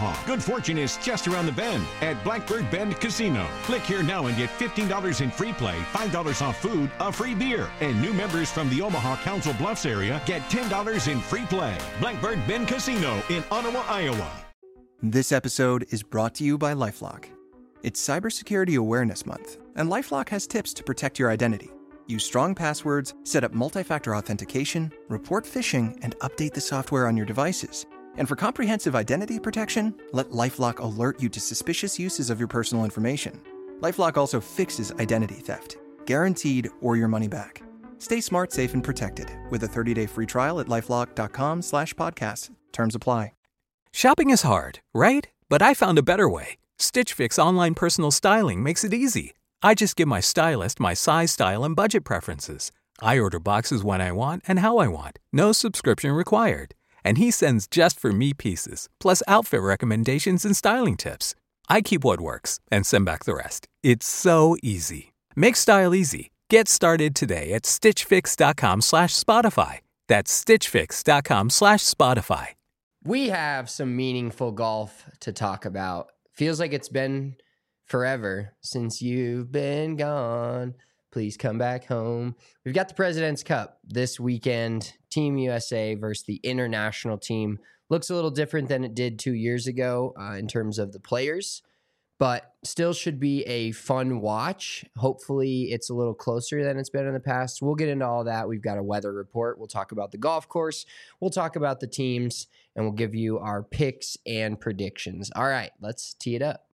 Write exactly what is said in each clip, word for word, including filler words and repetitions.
Omaha. Good fortune is just around the bend at Blackbird Bend Casino. Click here now and get fifteen dollars in free play, five dollars off food, a free beer. And new members from the Omaha Council Bluffs area get ten dollars in free play. Blackbird Bend Casino in Ottawa, Iowa. This episode is brought to you by LifeLock. It's Cybersecurity Awareness Month, and LifeLock has tips to protect your identity. Use strong passwords, set up multi-factor authentication, report phishing, and update the software on your devices. And for comprehensive identity protection, let LifeLock alert you to suspicious uses of your personal information. LifeLock also fixes identity theft, guaranteed or your money back. Stay smart, safe, and protected with a thirty-day free trial at LifeLock.com slash podcast. Terms apply. Shopping is hard, right? But I found a better way. Stitch Fix online personal styling makes it easy. I just give my stylist my size, style, and budget preferences. I order boxes when I want and how I want. No subscription required. And he sends just for me pieces, plus outfit recommendations and styling tips. I keep what works and send back the rest. It's so easy. Make style easy. Get started today at stitchfix.com slash Spotify. That's stitchfix.com slash Spotify. We have some meaningful golf to talk about. Feels like it's been forever since you've been gone. Please come back home. We've got the President's Cup this weekend. Team U S A versus the international team. Looks a little different than it did two years ago uh, in terms of the players, but still should be a fun watch. Hopefully it's a little closer than it's been in the past. We'll get into all that. We've got a weather report. We'll talk about the golf course. We'll talk about the teams, and we'll give you our picks and predictions. All right, let's tee it up.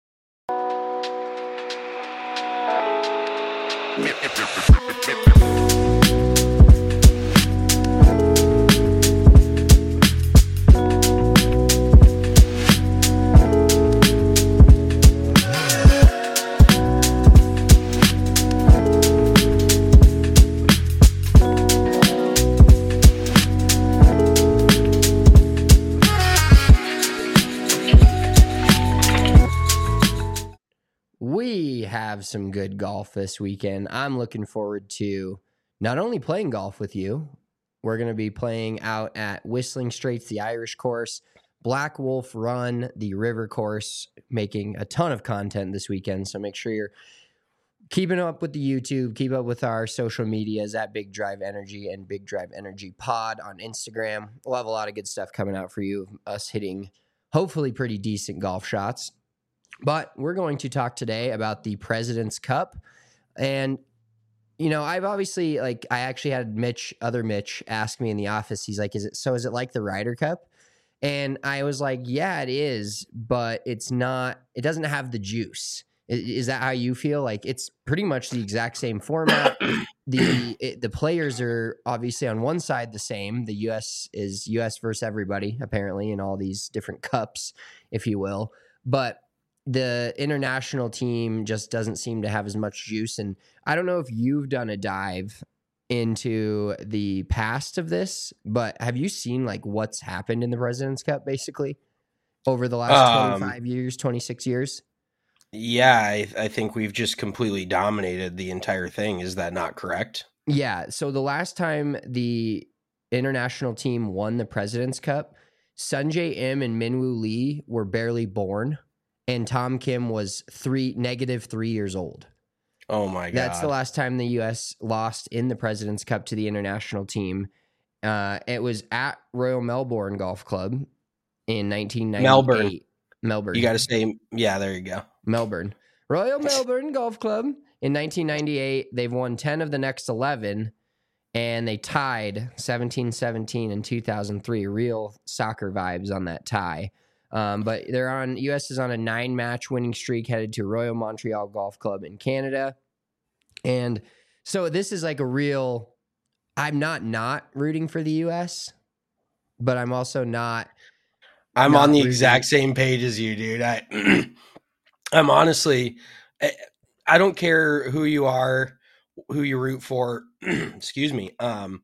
We have some good golf this weekend. I'm looking forward to not only playing golf with you, we're going to be playing out at Whistling Straits, the Irish course, Black Wolf Run, the river course, making a ton of content this weekend. So make sure you're keeping up with the YouTube, keep up with our social medias at Big Drive Energy and Big Drive Energy Pod on Instagram. We'll have a lot of good stuff coming out for you, us hitting hopefully pretty decent golf shots. But we're going to talk today about the President's Cup. And, you know, I've obviously, like, I actually had Mitch, other Mitch, ask me in the office. He's like, is it, so is it like the Ryder Cup? And I was like, yeah, it is, but it's not, it doesn't have the juice. Is, is that how you feel? Like, it's pretty much the exact same format. the it, The players are obviously on one side the same. The U S is U S versus everybody, apparently, in all these different cups, if you will. But the international team just doesn't seem to have as much juice. And I don't know if you've done a dive into the past of this, but have you seen like what's happened in the President's Cup basically over the last um, twenty-five years, twenty-six years? Yeah, I, I think we've just completely dominated the entire thing. Is that not correct? Yeah. So the last time the international team won the President's Cup, Sungjae Im and Minwoo Lee were barely born. And Tom Kim was three negative three years old. Oh, my God. That's the last time the U S lost in the President's Cup to the international team. Uh, it was at Royal Melbourne Golf Club in nineteen ninety-eight. Melbourne. Melbourne. You got to say, yeah, there you go. Melbourne. Royal Melbourne Golf Club in nineteen ninety-eight. They've won ten of the next eleven, and they tied seventeen seventeen in two thousand three. Real soccer vibes on that tie. Um, but they're on, U S is on a nine match winning streak headed to Royal Montreal Golf Club in Canada. And so this is like a real, I'm not not rooting for the U S, but I'm also not. I'm not on the rooting. exact same page as you, dude. I, I'm honestly, I, I don't care who you are, who you root for. Excuse me. Um,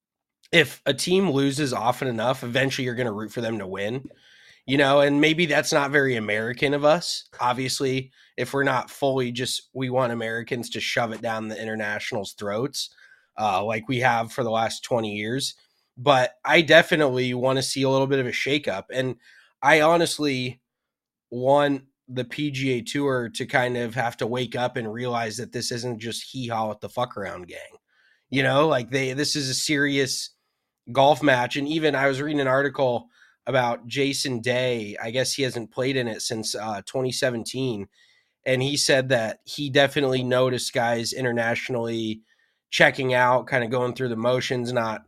if a team loses often enough, eventually you're going to root for them to win. You know, and maybe that's not very American of us. Obviously, if we're not fully just, we want Americans to shove it down the internationals' throats uh, like we have for the last twenty years. But I definitely want to see a little bit of a shakeup. And I honestly, want the P G A Tour to kind of have to wake up and realize that this isn't just hee-haw with the fuck around gang. You know, like they, this is a serious golf match. And even I was reading an article about Jason Day. I guess he hasn't played in it since uh, twenty seventeen. And he said that he definitely noticed guys internationally checking out, kind of going through the motions, not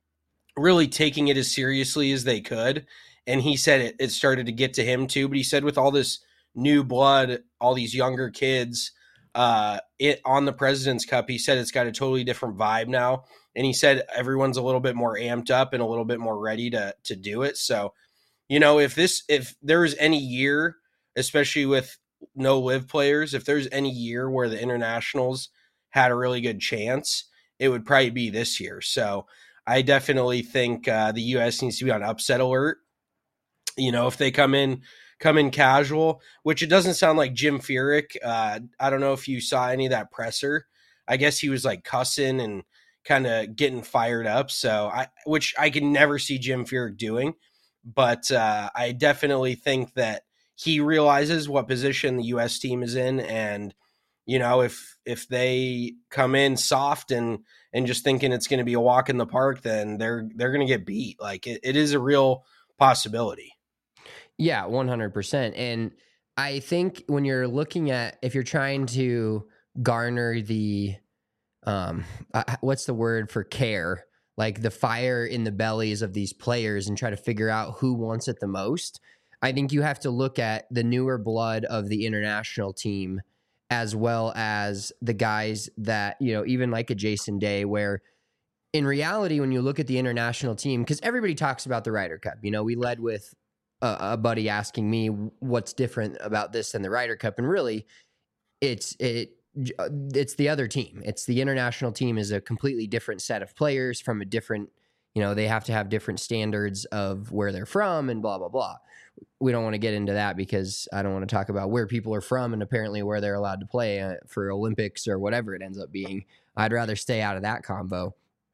really taking it as seriously as they could. And he said it, it started to get to him too. But he said with all this new blood, all these younger kids uh, it on the President's Cup, he said it's got a totally different vibe now. And he said everyone's a little bit more amped up and a little bit more ready to to do it. So, you know, if this if there was any year, especially with no live players, if there's any year where the internationals had a really good chance, it would probably be this year. So I definitely think uh, the U S needs to be on upset alert. You know, if they come in, come in casual, which it doesn't sound like Jim Furyk. Uh, I don't know if you saw any of that presser. I guess he was like cussing and kind of getting fired up. So I, which I can never see Jim Furyk doing, but uh, I definitely think that he realizes what position the U S team is in. And, you know, if, if they come in soft and, and just thinking it's going to be a walk in the park, then they're, they're going to get beat. Like it, it is a real possibility. Yeah, one hundred percent. And I think when you're looking at, if you're trying to garner the, um, uh, what's the word for care, like the fire in the bellies of these players and try to figure out who wants it the most, I think you have to look at the newer blood of the international team as well as the guys that, you know, even like a Jason Day, where in reality, when you look at the international team, because everybody talks about the Ryder Cup, you know, we led with a, a buddy asking me what's different about this than the Ryder Cup. And really it's, it, it's the other team. It's the international team is a completely different set of players from a different, you know, they have to have different standards of where they're from and blah, blah, blah. We don't want to get into that because I don't want to talk about where people are from and apparently where they're allowed to play uh, for Olympics or whatever it ends up being. I'd rather stay out of that combo.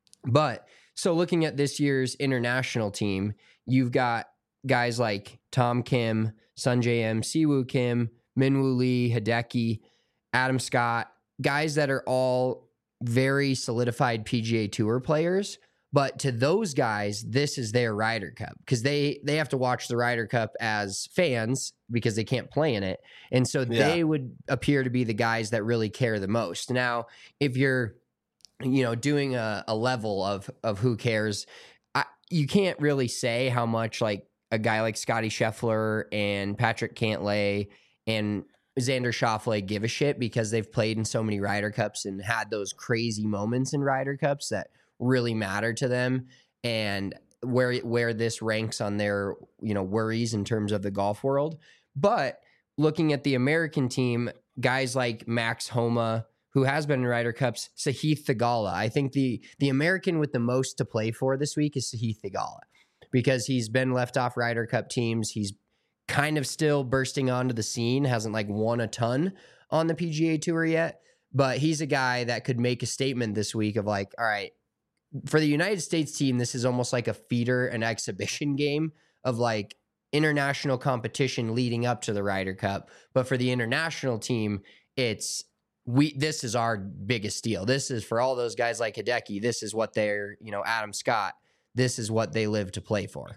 But so looking at this year's international team, you've got guys like Tom Kim, Sungjae M, Siwoo Kim, Minwoo Lee, Hideki, Adam Scott, guys that are all very solidified P G A Tour players. But to those guys, this is their Ryder Cup because they, they have to watch the Ryder Cup as fans because they can't play in it. And so yeah. they would appear to be the guys that really care the most. Now, if you're, you know, doing a, a level of, of who cares, I, you can't really say how much like a guy like Scotty Scheffler and Patrick Cantlay and Xander Schauffele give a shit because they've played in so many Ryder Cups and had those crazy moments in Ryder Cups that really matter to them, and where where this ranks on their, you know, worries in terms of the golf world. But looking at the American team, guys like Max Homa, who has been in Ryder Cups, Sahith Theegala. I think the the American with the most to play for this week is Sahith Theegala because he's been left off Ryder Cup teams. He's kind of still bursting onto the scene, hasn't like won a ton on the P G A Tour yet, but he's a guy that could make a statement this week of like, all right, for the United States team, this is almost like a feeder, an exhibition game of like international competition leading up to the Ryder Cup. But for the international team, it's we. This is our biggest deal. This is for all those guys like Hideki. This is what they're, you know, Adam Scott. This is what they live to play for.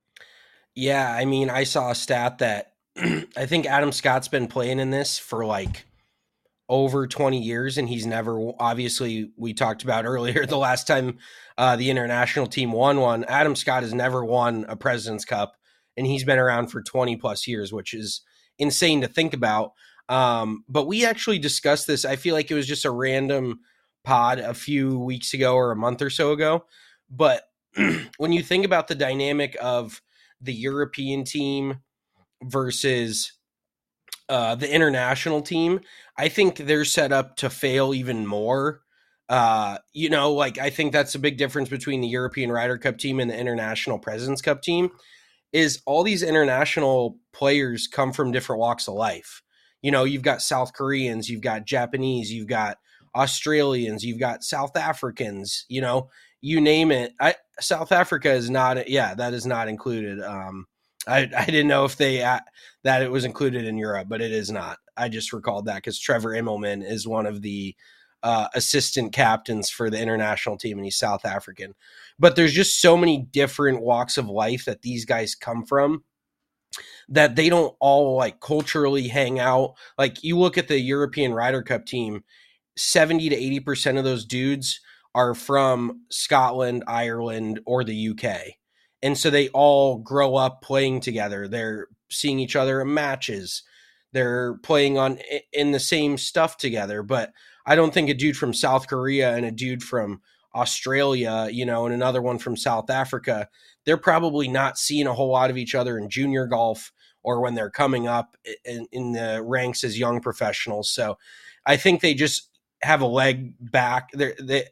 Yeah, I mean, I saw a stat that I think Adam Scott's been playing in this for like over twenty years, and he's never, obviously we talked about earlier, the last time uh, the international team won one, Adam Scott has never won a President's Cup, and he's been around for twenty plus years, which is insane to think about. Um, but we actually discussed this. I feel like it was just a random pod a few weeks ago or a month or so ago. But when you think about the dynamic of the European team versus Uh, the international team, I think they're set up to fail even more. Uh, you know, like I think that's a big difference between the European Ryder Cup team and the International President's Cup team is all these international players come from different walks of life. You know, you've got South Koreans, you've got Japanese, you've got Australians, you've got South Africans, you know, you name it. I, South Africa is not, yeah, that is not included. Um, I, I didn't know if they uh, that it was included in Europe, but it is not. I just recalled that because Trevor Immelman is one of the uh, assistant captains for the international team, and he's South African. But there's just so many different walks of life that these guys come from that they don't all like culturally hang out. Like you look at the European Ryder Cup team, seventy to eighty percent of those dudes are from Scotland, Ireland, or the U K. And so they all grow up playing together. They're seeing each other in matches. They're playing on in the same stuff together. But I don't think a dude from South Korea and a dude from Australia, you know, and another one from South Africa, they're probably not seeing a whole lot of each other in junior golf or when they're coming up in, in the ranks as young professionals. So I think they just have a leg back. They're, they,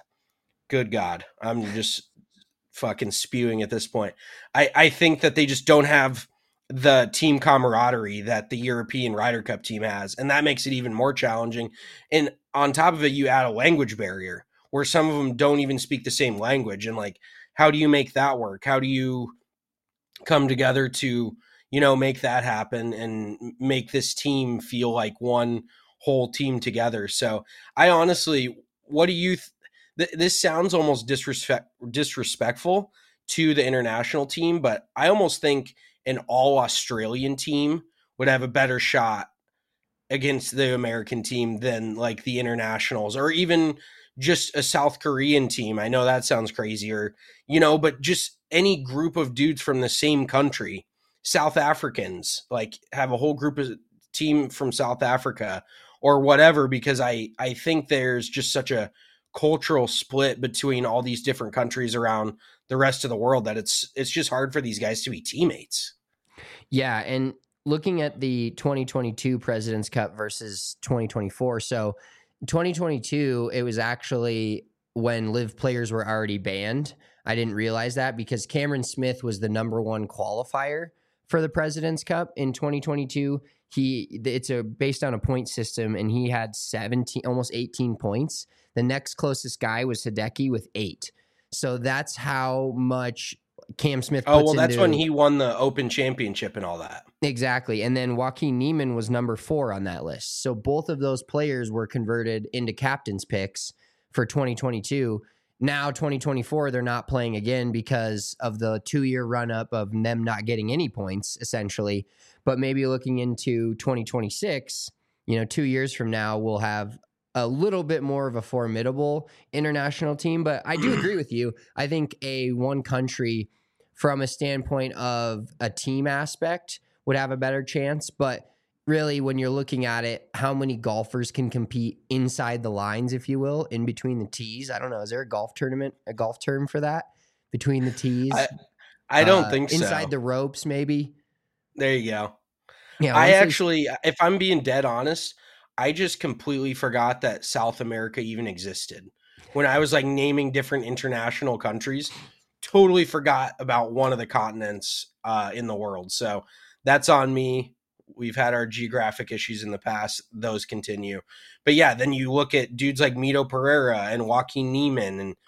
good God, I'm just fucking spewing at this point. I, I think that they just don't have the team camaraderie that the European Ryder Cup team has, and that makes it even more challenging. And on top of it, you add a language barrier where some of them don't even speak the same language. And like, how do you make that work? How do you come together to, you know, make that happen and make this team feel like one whole team together? So I honestly, what do you th- this sounds almost disrespect disrespectful to the international team, but I almost think an all Australian team would have a better shot against the American team than like the internationals, or even just a South Korean team. I know that sounds crazy, or, you know, but just any group of dudes from the same country. South Africans, like, have a whole group of team from South Africa or whatever, because I, I think there's just such a cultural split between all these different countries around the rest of the world that it's it's just hard for these guys to be teammates. Yeah, and looking at the twenty twenty-two President's Cup versus twenty twenty-four, so twenty twenty-two, it was actually when live players were already banned. I didn't realize that because Cameron Smith was the number one qualifier for the President's Cup in twenty twenty-two. He it's a based on a point system, and he had seventeen, almost eighteen points. The next closest guy was Hideki with eight. So that's how much Cam Smith puts Oh, well, that's into, when he won the Open Championship and all that. Exactly. And then Joaquin Niemann was number four on that list. So both of those players were converted into captain's picks for twenty twenty-two. Now, twenty twenty-four, they're not playing again because of the two-year run-up of them not getting any points, essentially. But maybe looking into twenty twenty-six, you know, two years from now, we'll have a little bit more of a formidable international team. But I do agree with you. I think a one country, from a standpoint of a team aspect, would have a better chance. But really, when you're looking at it, how many golfers can compete inside the lines, if you will, in between the tees? I don't know. Is there a golf tournament, a golf term for that? Between the tees? I, I don't uh, think so. Inside the ropes, maybe? There you go. Yeah, I honestly, actually, if I'm being dead honest, I just completely forgot that South America even existed. When I was like naming different international countries, totally forgot about one of the continents uh, in the world. So that's on me. We've had our geographic issues in the past. Those continue. But yeah, then you look at dudes like Mito Pereira and Joaquin Niemann. And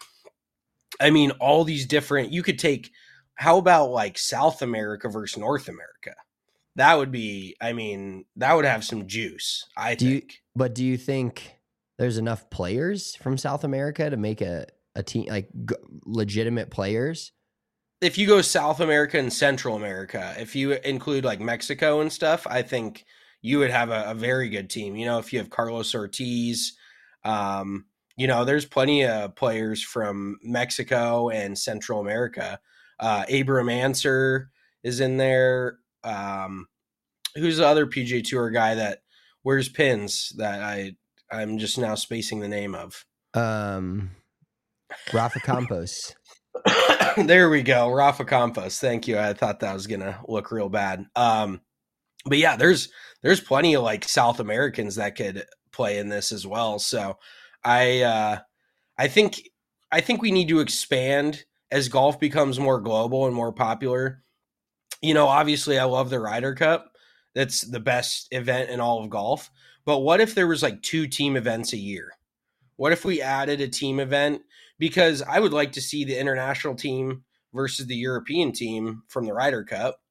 I mean, all these different, you could take, how about like South America versus North America? That would be, I mean, that would have some juice, I do think. You, but do you think there's enough players from South America to make a, a team, like g- legitimate players? If you go South America and Central America, if you include like Mexico and stuff, I think you would have a, a very good team. You know, if you have Carlos Ortiz, um, you know, there's plenty of players from Mexico and Central America. Uh, Abraham Answer is in there. Um, who's the other P G A Tour guy that wears pins that I, I'm just now spacing the name of? Um, Rafa Campos. There we go. Rafa Campos. Thank you. I thought that was going to look real bad. Um, but yeah, there's, there's plenty of like South Americans that could play in this as well. So I, uh, I think, I think we need to expand as golf becomes more global and more popular. You know, obviously I love the Ryder Cup. That's the best event in all of golf. But what if there was like two team events a year? What if we added a team event? Because I would like to see the international team versus the European team from the Ryder Cup.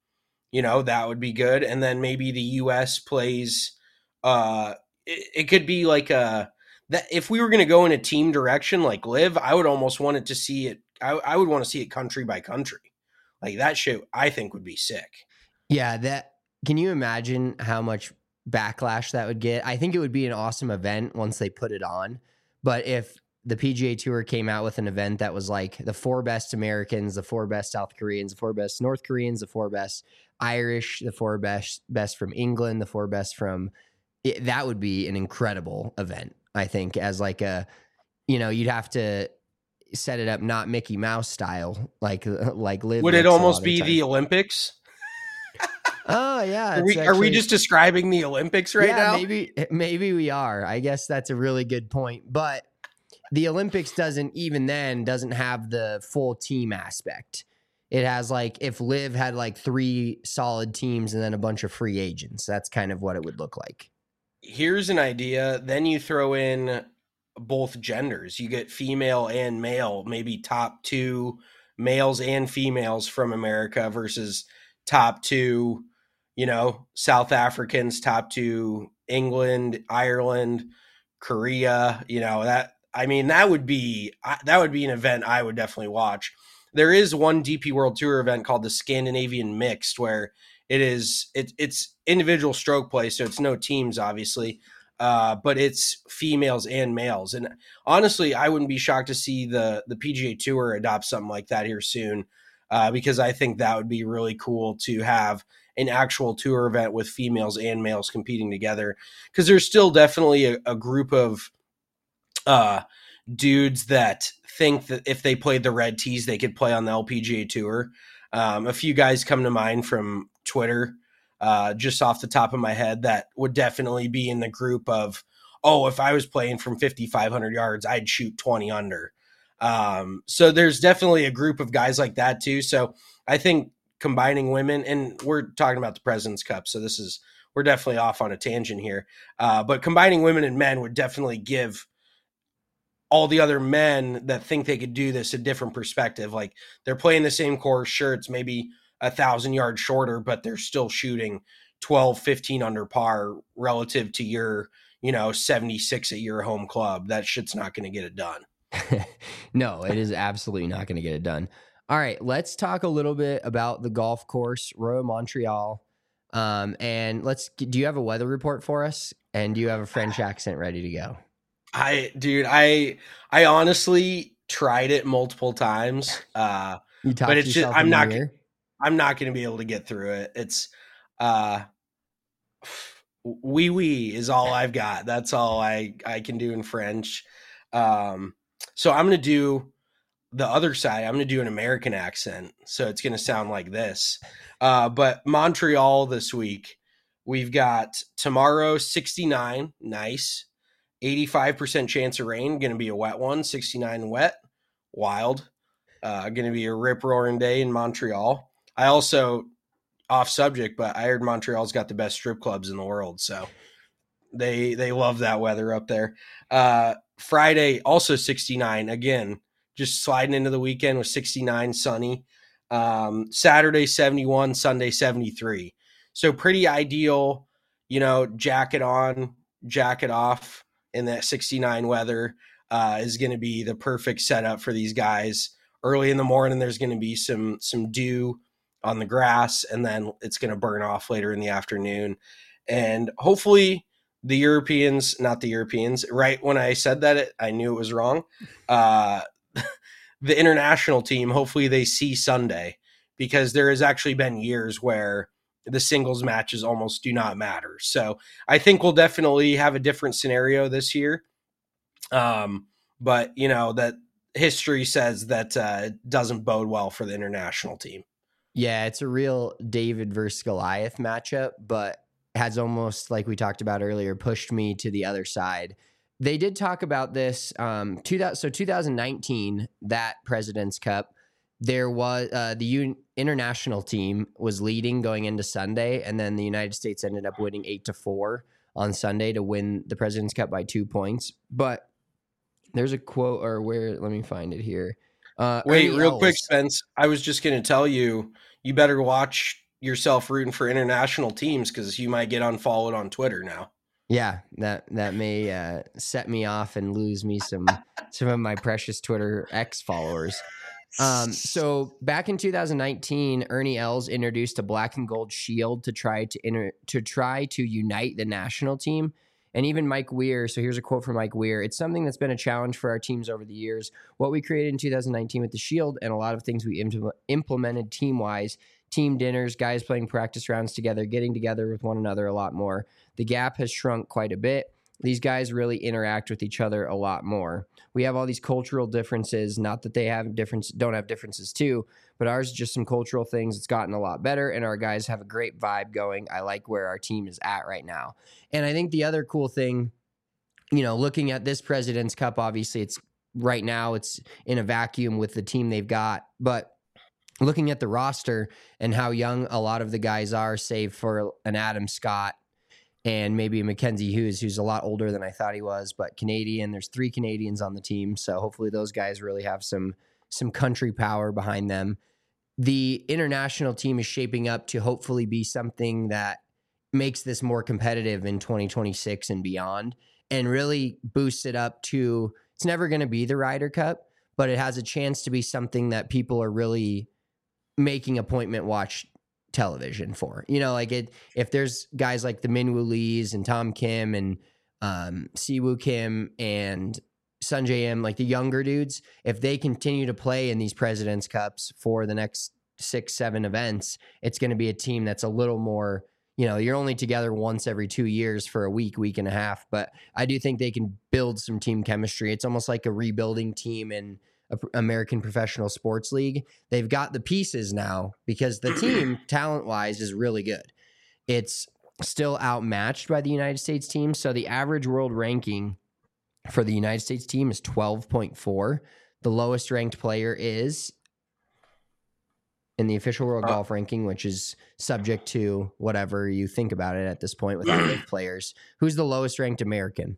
you know, that would be good. And then maybe the U S plays, uh, it, it could be like a, that if we were going to go in a team direction like Live, I would almost want it to see it. I, I would want to see it country by country. Like that shit, I think would be sick. Yeah, that can you imagine how much backlash that would get? I think it would be an awesome event once they put it on. But if the P G A Tour came out with an event that was like the four best Americans, the four best South Koreans, the four best North Koreans, the four best Irish, the four best best from England, the four best from it, that would be an incredible event. I think as like a, you know, you'd have to set it up not Mickey Mouse style, like like Live. Would it almost be the Olympics? Oh yeah, are we, actually, are we just describing the Olympics right yeah, now? Maybe maybe we are. I guess that's a really good point. But the Olympics doesn't even then doesn't have the full team aspect. It has like if Liv had like three solid teams and then a bunch of free agents. That's kind of what it would look like. Here's an idea. Then you throw in both genders. You get female and male, maybe top two males and females from America versus top two, you know, South Africans, top two England, Ireland, Korea, you know, that, I mean, that would be, that would be an event I would definitely watch. There is one D P World Tour event called the Scandinavian Mixed where it is, it, it's individual stroke play. So it's no teams, obviously, uh, but it's females and males. And honestly, I wouldn't be shocked to see the, the P G A Tour adopt something like that here soon, uh, because I think that would be really cool to have an actual tour event with females and males competing together. Because there's still definitely a, a group of uh, dudes that think that if they played the red tees, they could play on the L P G A Tour. Um, a few guys come to mind from Twitter, uh, just off the top of my head, that would definitely be in the group of, oh, if I was playing from fifty-five hundred yards, I'd shoot twenty under. Um, so there's definitely a group of guys like that too. So I think combining women, and we're talking about the President's Cup, so this is, we're definitely off on a tangent here. Uh, but combining women and men would definitely give all the other men that think they could do this a different perspective. Like they're playing the same course, sure, it's maybe a thousand yards shorter, but they're still shooting twelve, fifteen under par relative to your, you know, seventy-six at your home club. That shit's not going to get it done. No, it is absolutely not going to get it done. All right, let's talk a little bit about the golf course, Royal Montreal. Um, and let's, do you have a weather report for us? And do you have a French accent ready to go? I, dude, I, I honestly tried it multiple times. Uh, you but it's just, I'm not, I'm not going to be able to get through it. It's, uh, wee wee is all I've got. That's all I, I can do in French. Um, so I'm going to do the other side. I'm going to do an American accent. So it's going to sound like this. Uh, but Montreal this week, we've got tomorrow, sixty-nine. Nice. eighty-five percent chance of rain. Going to be a wet one. sixty-nine wet. Wild. Uh, going to be a rip roaring day in Montreal. I also, off subject, but I heard Montreal's got the best strip clubs in the world. So they, they love that weather up there. Uh, Friday, also sixty-nine. Again, just sliding into the weekend with sixty-nine, sunny. Um, Saturday, seventy-one, Sunday, seventy-three. So pretty ideal, you know, jacket on, jacket off in that sixty-nine weather uh, is going to be the perfect setup for these guys. Early in the morning, there's going to be some, some dew on the grass, and then it's going to burn off later in the afternoon. And hopefully the Europeans, not the Europeans, right when I said that, it, I knew it was wrong. Uh, the international team, hopefully they see Sunday, because there has actually been years where the singles matches almost do not matter. So I think we'll definitely have a different scenario this year. Um, but, you know, that history says that uh, it doesn't bode well for the international team. Yeah, it's a real David versus Goliath matchup, but has almost, like we talked about earlier, pushed me to the other side. They did talk about this. Um, two thousand, so two thousand nineteen, that President's Cup, there was uh, the U- international team was leading going into Sunday, and then the United States ended up winning eight to four on Sunday to win the President's Cup by two points. But there's a quote, or where? Let me find it here. Uh, Wait, Ernie real Els. quick, Spence. I was just going to tell you, you better watch yourself rooting for international teams because you might get unfollowed on Twitter now. Yeah, that that may uh, set me off and lose me some some of my precious Twitter X followers. Um, so back in two thousand nineteen, Ernie Els introduced a black and gold shield to try to inter- to try to unite the national team. And even Mike Weir, so here's a quote from Mike Weir. It's something that's been a challenge for our teams over the years. What we created in two thousand nineteen with the shield and a lot of things we impl- implemented team-wise, team dinners, guys playing practice rounds together, getting together with one another a lot more. The gap has shrunk quite a bit. These guys really interact with each other a lot more. We have all these cultural differences, not that they have difference, don't have differences too, but ours is just some cultural things. It's gotten a lot better, and our guys have a great vibe going. I like where our team is at right now. And I think the other cool thing, you know, looking at this President's Cup, obviously it's right now it's in a vacuum with the team they've got, but looking at the roster and how young a lot of the guys are, save for an Adam Scott, and maybe Mackenzie Hughes, who's a lot older than I thought he was, but Canadian. There's three Canadians on the team, so hopefully those guys really have some some country power behind them. The international team is shaping up to hopefully be something that makes this more competitive in twenty twenty-six and beyond, and really boosts it up to, it's never going to be the Ryder Cup, but it has a chance to be something that people are really making appointment watch television for. You know, like it, if there's guys like the Minwoo Lees and Tom Kim and um, Siwoo Kim and Sungjae Im, like the younger dudes, if they continue to play in these President's Cups for the next six, seven events, it's going to be a team that's a little more, you know, you're only together once every two years for a week, week and a half. But I do think they can build some team chemistry. It's almost like a rebuilding team in American Professional Sports League. They've got the pieces now because the team talent wise is really good. It's still outmatched by the United States team. So the average world ranking for the United States team is twelve point four. The lowest ranked player is in the official world uh, golf ranking, which is subject to whatever you think about it at this point with active players. Who's the lowest ranked American?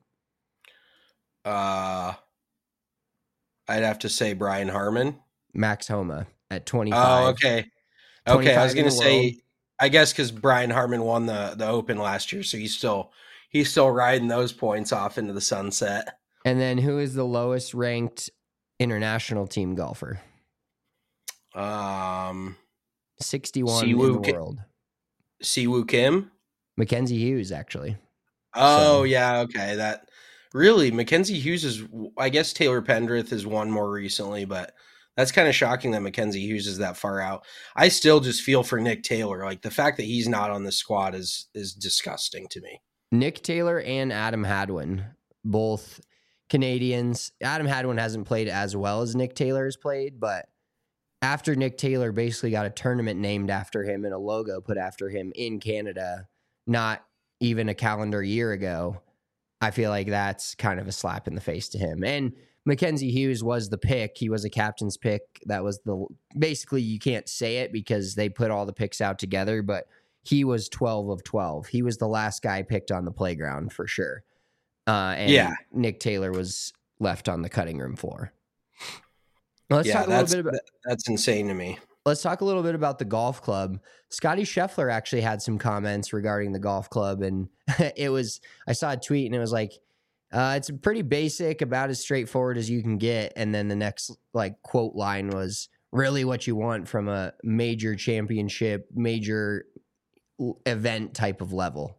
Uh, I'd have to say Brian Harman. Max Homa at twenty-five. Oh, okay. Okay, I was going to say, I guess because Brian Harman won the, the Open last year, so he's still he's still riding those points off into the sunset. And then who is the lowest ranked international team golfer? Um, sixty-one Siwoo in the Ki- world. Siwoo Kim? Mackenzie Hughes, actually. Oh, So- yeah, okay. That really, Mackenzie Hughes is, I guess Taylor Pendrith has won more recently, but that's kind of shocking that Mackenzie Hughes is that far out. I still just feel for Nick Taylor. Like the fact that he's not on the squad is is disgusting to me. Nick Taylor and Adam Hadwin, both Canadians. Adam Hadwin hasn't played as well as Nick Taylor has played, but after Nick Taylor basically got a tournament named after him and a logo put after him in Canada, not even a calendar year ago, I feel like that's kind of a slap in the face to him. And Mackenzie Hughes was the pick. He was a captain's pick. That was the, basically you can't say it because they put all the picks out together, but he was twelve of twelve. He was the last guy picked on the playground for sure. Uh, and Yeah. Nick Taylor was left on the cutting room floor. Let's yeah, talk a little that's, bit about that's insane to me. Let's talk a little bit about the golf club. Scotty Scheffler actually had some comments regarding the golf club, and it was, I saw a tweet and it was like, uh, it's pretty basic, about as straightforward as you can get. And then the next like quote line was really what you want from a major championship, major event type of level.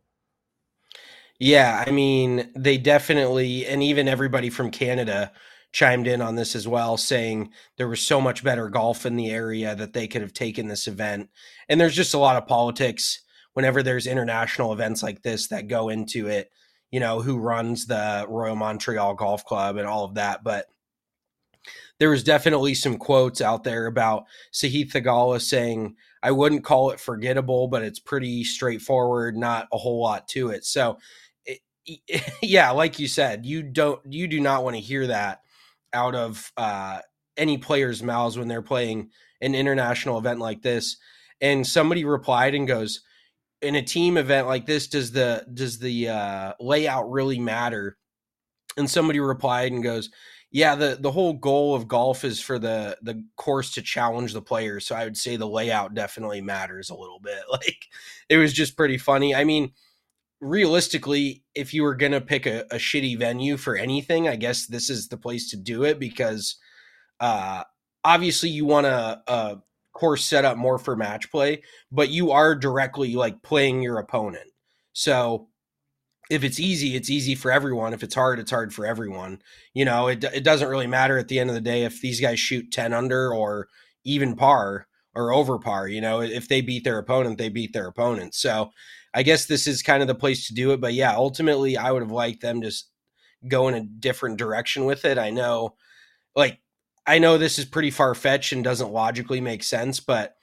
Yeah, I mean, they definitely, and even everybody from Canada chimed in on this as well, saying there was so much better golf in the area that they could have taken this event. And there's just a lot of politics whenever there's international events like this that go into it, you know, who runs the Royal Montreal Golf Club and all of that. But there was definitely some quotes out there about Sahith Theegala saying, I wouldn't call it forgettable, but it's pretty straightforward, not a whole lot to it. So it, yeah, like you said, you don't, you do not want to hear that out of uh, any player's mouths when they're playing an international event like this. And somebody replied and goes, in a team event like this, does the, does the uh, layout really matter? And somebody replied and goes, Yeah, the the whole goal of golf is for the the course to challenge the players. So I would say the layout definitely matters a little bit. Like, it was just pretty funny. I mean, realistically, if you were going to pick a, a shitty venue for anything, I guess this is the place to do it, because uh, obviously you want a, a course set up more for match play, but you are directly like playing your opponent. So if it's easy, it's easy for everyone. If it's hard, it's hard for everyone. You know, it it doesn't really matter at the end of the day if these guys shoot ten under or even par or over par. You know, if they beat their opponent, they beat their opponent. So I guess this is kind of the place to do it. But yeah, ultimately, I would have liked them to go in a different direction with it. I know, like, I know this is pretty far-fetched and doesn't logically make sense, but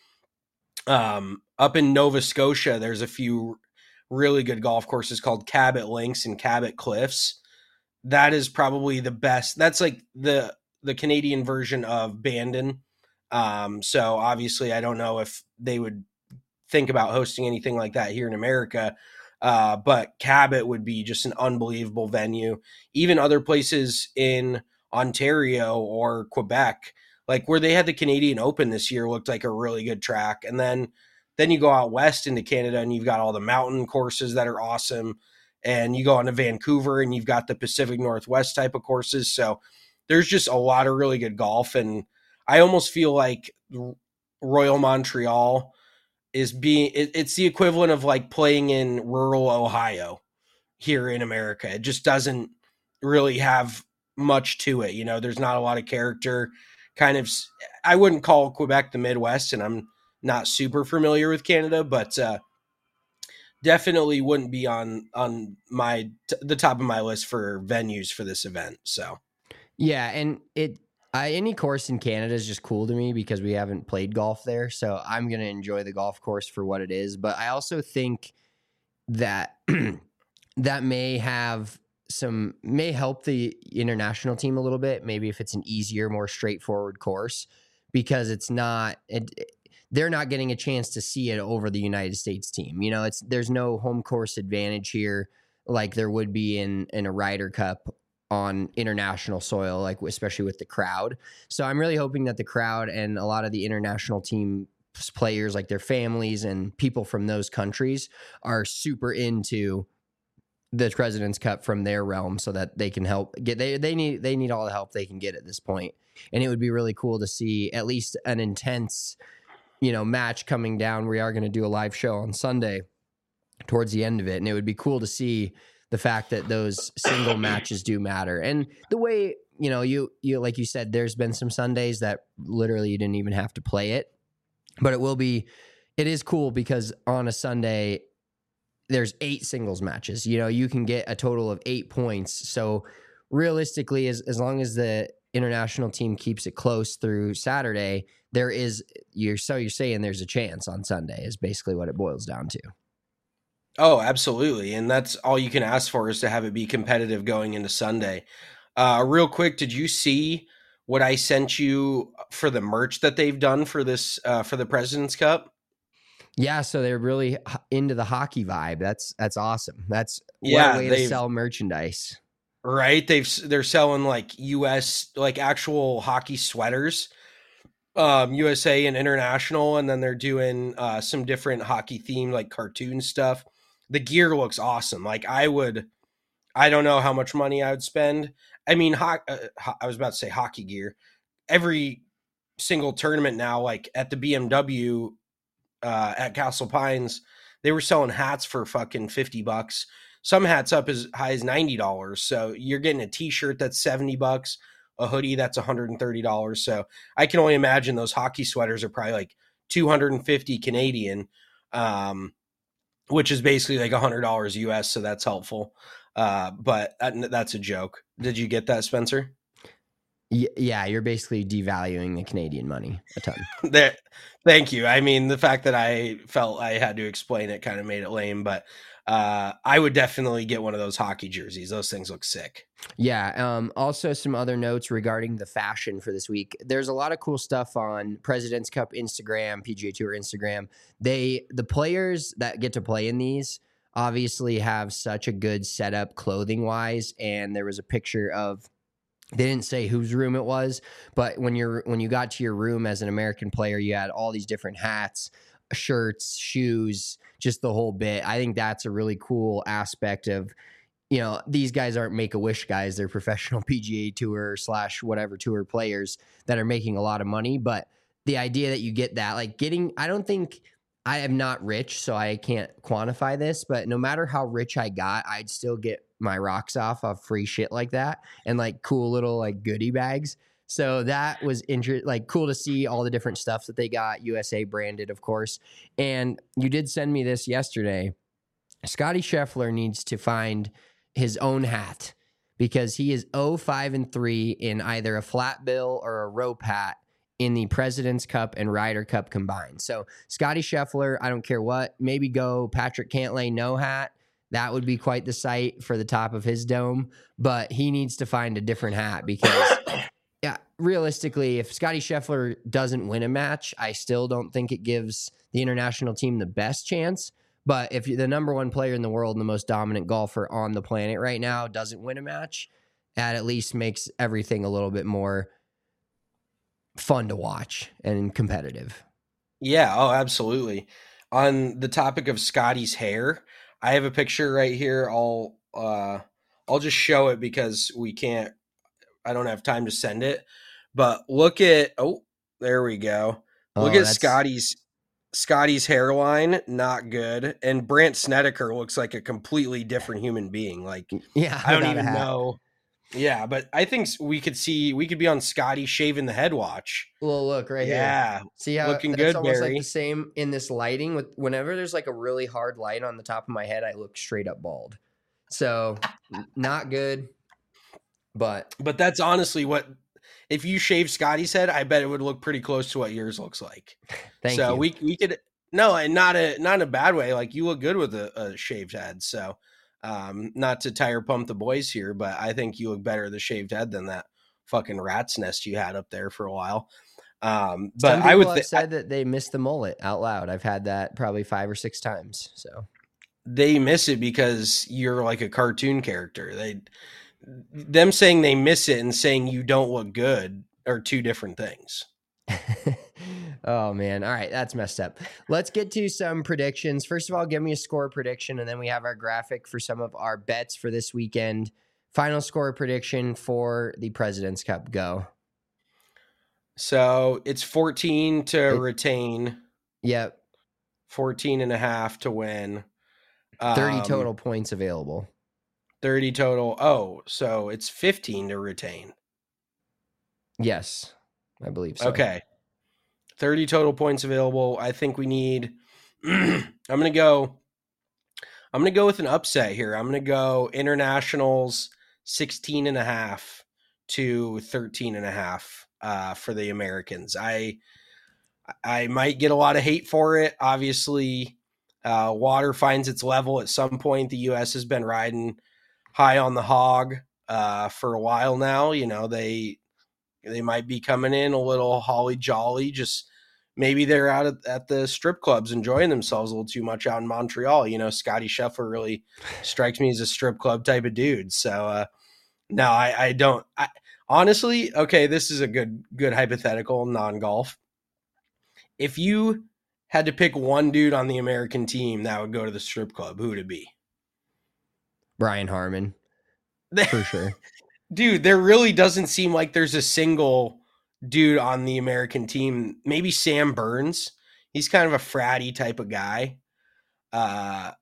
um, up in Nova Scotia, there's a few really good golf courses called Cabot Links and Cabot Cliffs. That is probably the best. That's like the the Canadian version of Bandon. Um, so obviously, I don't know if they would think about hosting anything like that here in America. Uh, but Cabot would be just an unbelievable venue. Even other places in Ontario or Quebec, like where they had the Canadian Open this year, looked like a really good track. And then Then you go out west into Canada and you've got all the mountain courses that are awesome. And you go on to Vancouver and you've got the Pacific Northwest type of courses. So there's just a lot of really good golf. And I almost feel like Royal Montreal is being, it, it's the equivalent of like playing in rural Ohio here in America. It just doesn't really have much to it. You know, there's not a lot of character. Kind of, I wouldn't call Quebec the Midwest, and I'm not super familiar with Canada, but uh, definitely wouldn't be on on my t- the top of my list for venues for this event. So, yeah, and it I, any course in Canada is just cool to me because we haven't played golf there, so I'm gonna enjoy the golf course for what it is. But I also think that that may have some may help the international team a little bit. Maybe if it's an easier, more straightforward course, because it's not it. They're not getting a chance to see it over the United States team. You know, it's there's no home course advantage here like there would be in, in a Ryder Cup on international soil, like especially with the crowd. So I'm really hoping that the crowd and a lot of the international team players, like their families and people from those countries, are super into the President's Cup from their realm so that they can help get they they need they need all the help they can get at this point. And it would be really cool to see at least an intense you know, match coming down. We are going to do a live show on Sunday towards the end of it. And it would be cool to see the fact that those single matches do matter. And the way, you know, you, you, like you said, there's been some Sundays that literally you didn't even have to play it, but it will be, it is cool because on a Sunday, there's eight singles matches, you know, you can get a total of eight points. So realistically, as, as long as the international team keeps it close through Saturday, there is you're so you're saying there's a chance on Sunday is basically what it boils down to. Oh, absolutely. And that's all you can ask for, is to have it be competitive going into Sunday. Uh, real quick, did you see what I sent you for the merch that they've done for this, uh, for the President's Cup? Yeah. So they're really into the hockey vibe. That's, that's awesome. That's yeah, one way to sell merchandise. Right. They've, they're selling like U S, like actual hockey sweaters, um, U S A and international. And then they're doing uh, some different hockey themed, like cartoon stuff. The gear looks awesome. Like I would, I don't know how much money I would spend. I mean, ho- uh, ho- I was about to say hockey gear. Every single tournament now, like at the B M W uh, at Castle Pines, they were selling hats for fucking fifty bucks. Some hats up as high as ninety dollars. So you're getting a t-shirt that's seventy bucks, a hoodie that's one hundred thirty dollars. So I can only imagine those hockey sweaters are probably like two hundred fifty Canadian, um, which is basically like one hundred dollars U S. So that's helpful. Uh, but that, that's a joke. Did you get that, Spencer? Yeah, you're basically devaluing the Canadian money a ton. There, thank you. I mean, the fact that I felt I had to explain it kind of made it lame, but uh, I would definitely get one of those hockey jerseys. Those things look sick. Yeah. Um, also, some other notes regarding the fashion for this week. There's a lot of cool stuff on President's Cup Instagram, P G A Tour Instagram. They, the players that get to play in these obviously have such a good setup clothing wise. And there was a picture of They didn't say whose room it was, but when you're when you got to your room as an American player, you had all these different hats, shirts, shoes, just the whole bit. I think that's a really cool aspect of, you know, these guys aren't Make-A-Wish guys. They're professional P G A Tour slash whatever tour players that are making a lot of money. But the idea that you get that, like getting, I don't think, I am not rich, so I can't quantify this, but no matter how rich I got, I'd still get my rocks off of free shit like that and like cool little like goodie bags. So that was inter- like cool to see all the different stuff that they got, U S A branded, of course. And you did send me this yesterday. Scotty Scheffler needs to find his own hat because he is oh five and three in either a flat bill or a rope hat in the President's Cup and Ryder Cup combined. So Scotty Scheffler, I don't care what, maybe go Patrick Cantlay no hat. That would be quite the sight for the top of his dome, but he needs to find a different hat because yeah, realistically, if Scotty Scheffler doesn't win a match, I still don't think it gives the international team the best chance. But if the number one player in the world and the most dominant golfer on the planet right now doesn't win a match, that at least makes everything a little bit more fun to watch and competitive. Yeah, oh, absolutely. On the topic of Scotty's hair, I have a picture right here. I'll uh, I'll just show it because we can't. I don't have time to send it. But look at oh, there we go. Look Oh, at that's- Scotty's Scotty's hairline, not good. And Brandt Snedeker looks like a completely different human being. Like Yeah, I don't without a even hat. know. Yeah, but I think we could see we could be on Scotty shaving the head watch. Well, look right here. Yeah, See how looking that's good, almost Barry. like the same in this lighting. With whenever there's like a really hard light on the top of my head, I look straight up bald. So n- not good. But But that's honestly what if you shave Scotty's head, I bet it would look pretty close to what yours looks like. thank so you. we we could no, and not a not in a bad way. Like you look good with a, a shaved head. So um, not to tire pump the boys here, but I think you look better with a shaved head than that fucking rat's nest you had up there for a while. Um, but Some people I would have th- said that they miss the mullet out loud. I've had that probably five or six times. So they miss it because you're like a cartoon character. They them saying they miss it and saying you don't look good are two different things. oh man. All right, that's messed up. Let's get to some predictions. First of all, give me a score prediction, and then we have our graphic for some of our bets for this weekend. Final score prediction for the President's Cup. Go. So it's fourteen to It- retain, Yep. fourteen and a half to win. thirty Um, total points available. thirty total. Oh, so it's fifteen to retain. Yes, I believe so. Okay. thirty total points available. I think we need I'm going to go I'm going to go with an upset here. I'm going to go internationals sixteen and a half to thirteen and a half uh, for the Americans. I I might get a lot of hate for it. Obviously, uh, water finds its level at some point. The U S has been riding high on the hog uh, for a while now. You know, they they might be coming in a little holly jolly. Just maybe they're out at, at the strip clubs enjoying themselves a little too much out in Montreal. You know, Scotty Scheffler really strikes me as a strip club type of dude. So uh, no, I, I don't. I, honestly, okay, this is a good good hypothetical non-golf. If you had to pick one dude on the American team that would go to the strip club, who would it be? Brian Harmon, for sure. Dude, there really doesn't seem like there's a single dude on the American team. Maybe Sam Burns. He's kind of a fratty type of guy. Uh,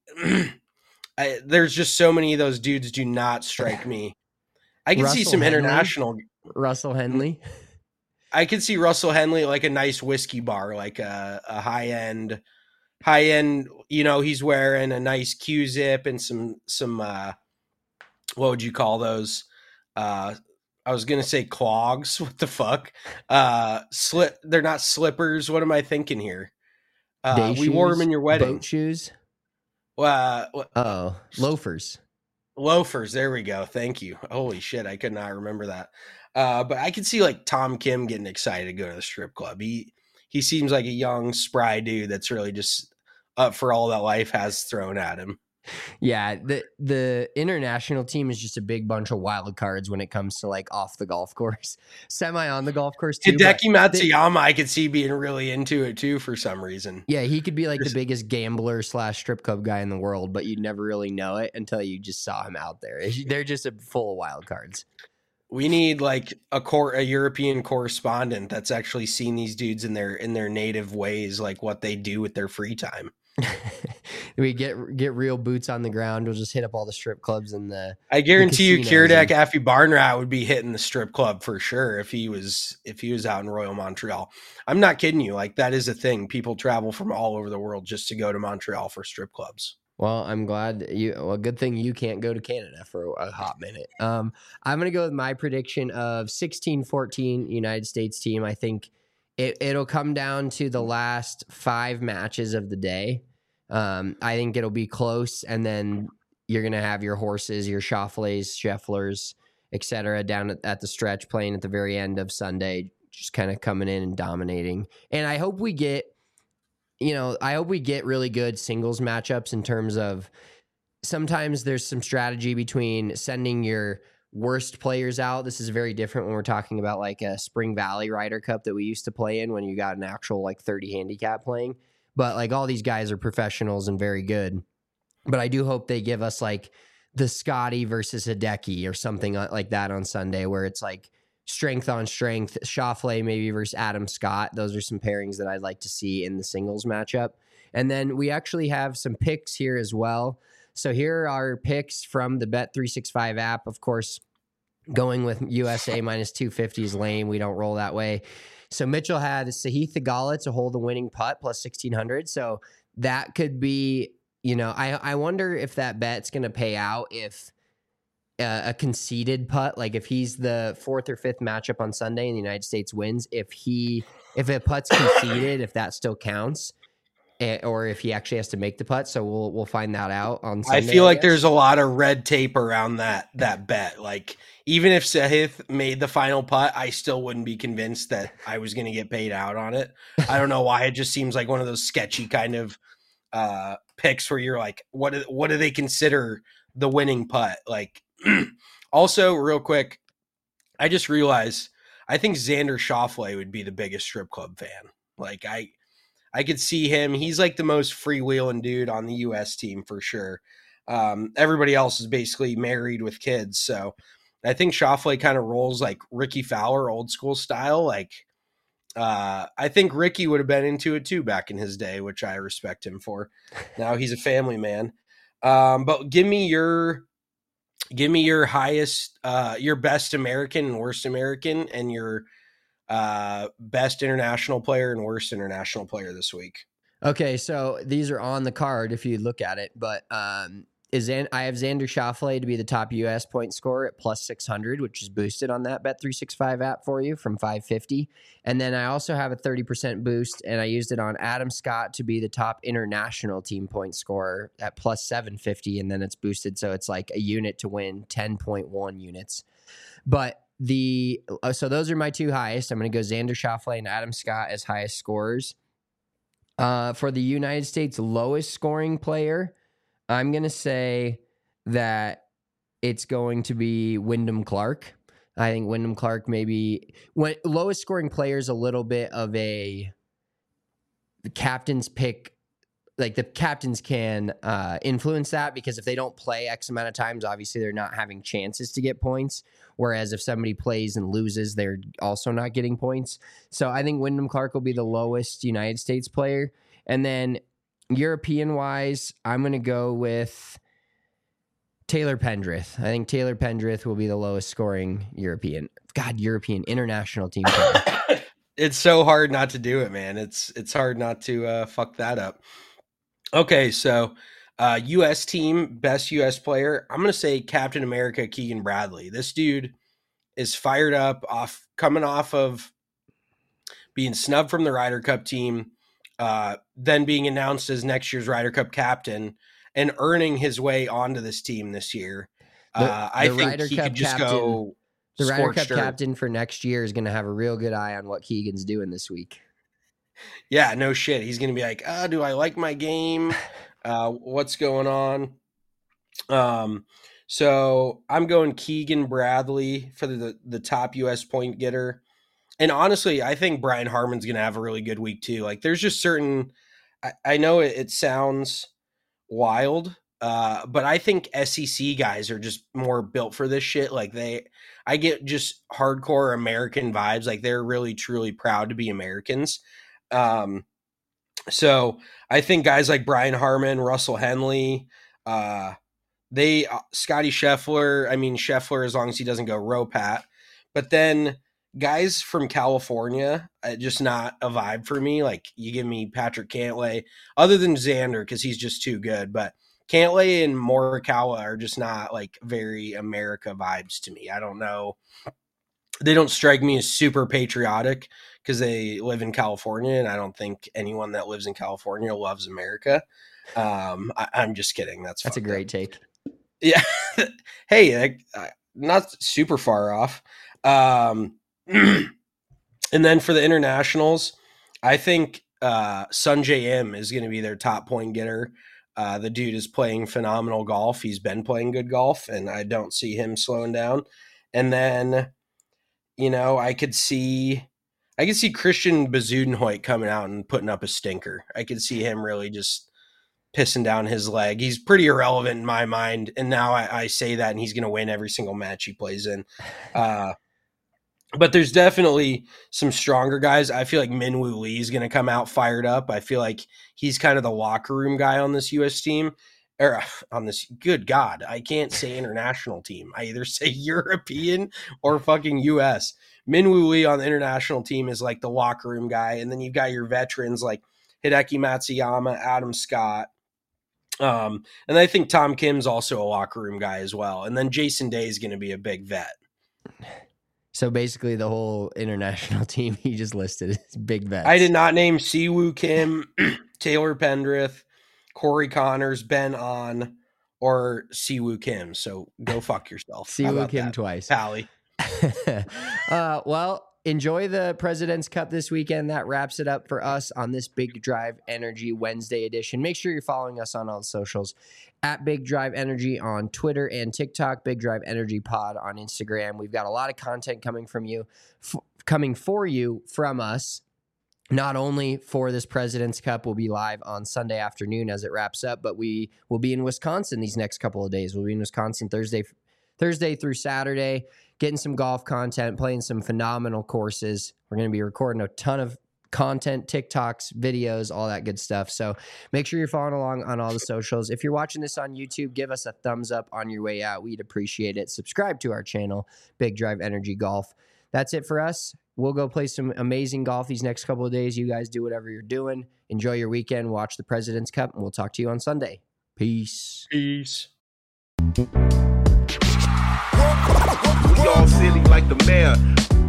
I, there's just so many of those dudes do not strike me. I can see Russell some Henley? international. Russell Henley. I could see Russell Henley like a nice whiskey bar, like a, a high end, high end. You know, he's wearing a nice Q zip and some some. Uh, what would you call those? Uh, I was gonna say clogs. What the fuck? Uh, slip. They're not slippers. What am I thinking here? Uh, Day we wore shoes, them in your wedding. Boat shoes. Uh, Oh, loafers. loafers. There we go. Thank you. Holy shit, I could not remember that. Uh, but I could see like Tom Kim getting excited to go to the strip club. He he seems like a young, spry dude that's really just up for all that life has thrown at him. Yeah, the the international team is just a big bunch of wild cards when it comes to like off the golf course, semi on the golf course too. Hideki Matsuyama, I could see being really into it too for some reason. Yeah, he could be like There's, the biggest gambler slash strip club guy in the world, but you'd never really know it until you just saw him out there. They're just a full of wild cards. We need like a core, a European correspondent that's actually seen these dudes in their in their native ways, like what they do with their free time. We get get real boots on the ground. We'll just hit up all the strip clubs and the. I guarantee the you, Kiradech Affy Barnrat would be hitting the strip club for sure if he was if he was out in Royal Montreal. I'm not kidding you. Like that is a thing. People travel from all over the world just to go to Montreal for strip clubs. Well, I'm glad you. Well, good thing you can't go to Canada for a hot minute. Um, I'm gonna go with my prediction of sixteen fourteen United States team. I think it it'll come down to the last five matches of the day. Um, I think it'll be close, and then you're gonna have your horses, your Schauffele's, Schefflers, et cetera, down at, at the stretch, playing at the very end of Sunday, just kind of coming in and dominating. And I hope we get. You know, I hope we get really good singles matchups in terms of sometimes there's some strategy between sending your worst players out. This is very different when we're talking about like a Spring Valley Ryder Cup that we used to play in when you got an actual like thirty handicap playing. But like all these guys are professionals and very good. But I do hope they give us like the Scotty versus Hideki or something like that on Sunday where it's like strength on strength, Schauffele maybe versus Adam Scott. Those are some pairings that I'd like to see in the singles matchup. And then we actually have some picks here as well. So here are our picks from the Bet three sixty-five app. Of course, going with U S A minus two fifty is lame. We don't roll that way. So Mitchell had Sahith Theegala to hold the winning putt plus sixteen hundred. So that could be, you know, I, I wonder if that bet's going to pay out if a conceded putt, like if he's the fourth or fifth matchup on Sunday and the United States wins, if he if a putt's conceded, if that still counts, or if he actually has to make the putt. So we'll we'll find that out on Sunday. I feel I like guess. There's a lot of red tape around that that bet. Like even if Sahith made the final putt, I still wouldn't be convinced that I was going to get paid out on it. I don't know why. It just seems like one of those sketchy kind of uh, picks where you're like, what do, what do they consider the winning putt? Like. Also, real quick, I just realized I think Xander Schauffele would be the biggest strip club fan. Like I, I could see him. He's like the most freewheeling dude on the U S team for sure. Um, everybody else is basically married with kids, so I think Schauffele kind of rolls like Ricky Fowler, old school style. Like uh, I think Ricky would have been into it too back in his day, which I respect him for. Now he's a family man. Um, but give me your. Give me your highest, uh, your best American and worst American, and your uh, best international player and worst international player this week. Okay, so these are on the card if you look at it, but um, is I have Xander Schauffele to be the top U S point scorer at plus six hundred, which is boosted on that Bet three sixty-five app for you from five fifty. And then I also have a thirty percent boost, and I used it on Adam Scott to be the top international team point scorer at plus seven fifty, and then it's boosted, so it's like a unit to win ten point one units. But the uh, so those are my two highest. I'm going to go Xander Schauffele and Adam Scott as highest scorers. Uh, for the United States lowest scoring player, I'm going to say that it's going to be Wyndham Clark. I think Wyndham Clark maybe when lowest scoring player is a little bit of a the captain's pick. Like the captains can uh, influence that because if they don't play X amount of times, obviously they're not having chances to get points. Whereas if somebody plays and loses, they're also not getting points. So I think Wyndham Clark will be the lowest United States player. And then European-wise, I'm going to go with Taylor Pendrith. I think Taylor Pendrith will be the lowest scoring European. God, European international team player. It's so hard not to do it, man. It's it's hard not to uh, fuck that up. Okay, so uh, U S team, best U S player. I'm going to say Captain America, Keegan Bradley. This dude is fired up, off coming off of being snubbed from the Ryder Cup team, uh, then being announced as next year's Ryder Cup captain and earning his way onto this team this year. The, uh, I the think Ryder he Cup could just captain, go The Ryder Cup earth. captain for next year is going to have a real good eye on what Keegan's doing this week. Yeah, no shit. He's going to be like, oh, do I like my game? Uh, what's going on? Um, so I'm going Keegan Bradley for the, the top U S point getter. And honestly, I think Brian Harman's going to have a really good week too. Like there's just certain, I, I know it, it sounds wild, uh, but I think S E C guys are just more built for this shit. Like they, I get just hardcore American vibes. Like they're really, truly proud to be Americans. Um, so I think guys like Brian Harman, Russell Henley, uh, they, uh, Scotty Scheffler, I mean, Scheffler, as long as he doesn't go row pat, but then guys from California, uh, just not a vibe for me. Like you give me Patrick Cantlay, other than Xander, because he's just too good. But Cantlay and Morikawa are just not like very America vibes to me. I don't know. They don't strike me as super patriotic because they live in California, and I don't think anyone that lives in California loves America. Um, I, I'm just kidding. That's that's a great up. take. Yeah. Hey, uh, not super far off. Um, and then for the internationals, I think uh, Sungjae Im is going to be their top point getter. Uh, the dude is playing phenomenal golf. He's been playing good golf, and I don't see him slowing down. And then, you know, I could see, I could see Christian Bezuidenhout coming out and putting up a stinker. I could see him really just pissing down his leg. He's pretty irrelevant in my mind, and now I, I say that, and he's going to win every single match he plays in. Uh, But there's definitely some stronger guys. I feel like Minwoo Lee is going to come out fired up. I feel like he's kind of the locker room guy on this U S team. Or on this, good God, I can't say international team. I either say European or fucking U S. Minwoo Lee on the international team is like the locker room guy. And then you've got your veterans like Hideki Matsuyama, Adam Scott. Um, and I think Tom Kim's also a locker room guy as well. And then Jason Day is going to be a big vet. So basically the whole international team he just listed is big vets. I did not name Siwoo Kim, Taylor Pendrith, Corey Connors, Ben On, or Siwoo Kim. So go fuck yourself. Siwoo Kim that? twice. Pally. uh, well, enjoy the President's Cup this weekend. That wraps it up for us on this Big Drive Energy Wednesday edition. Make sure you're following us on all the socials at Big Drive Energy on Twitter and TikTok, Big Drive Energy Pod on Instagram. We've got a lot of content coming from you, f- coming for you from us. Not only for this President's Cup, we'll be live on Sunday afternoon as it wraps up, but we will be in Wisconsin these next couple of days. We'll be in Wisconsin Thursday, Thursday through Saturday, getting some golf content, playing some phenomenal courses. We're going to be recording a ton of content, TikToks, videos, all that good stuff. So make sure you're following along on all the socials. If you're watching this on YouTube, give us a thumbs up on your way out. We'd appreciate it. Subscribe to our channel, Big Drive Energy Golf. That's it for us. We'll go play some amazing golf these next couple of days. You guys do whatever you're doing. Enjoy your weekend. Watch the President's Cup, and we'll talk to you on Sunday. Peace. Peace. We all silly like the mayor.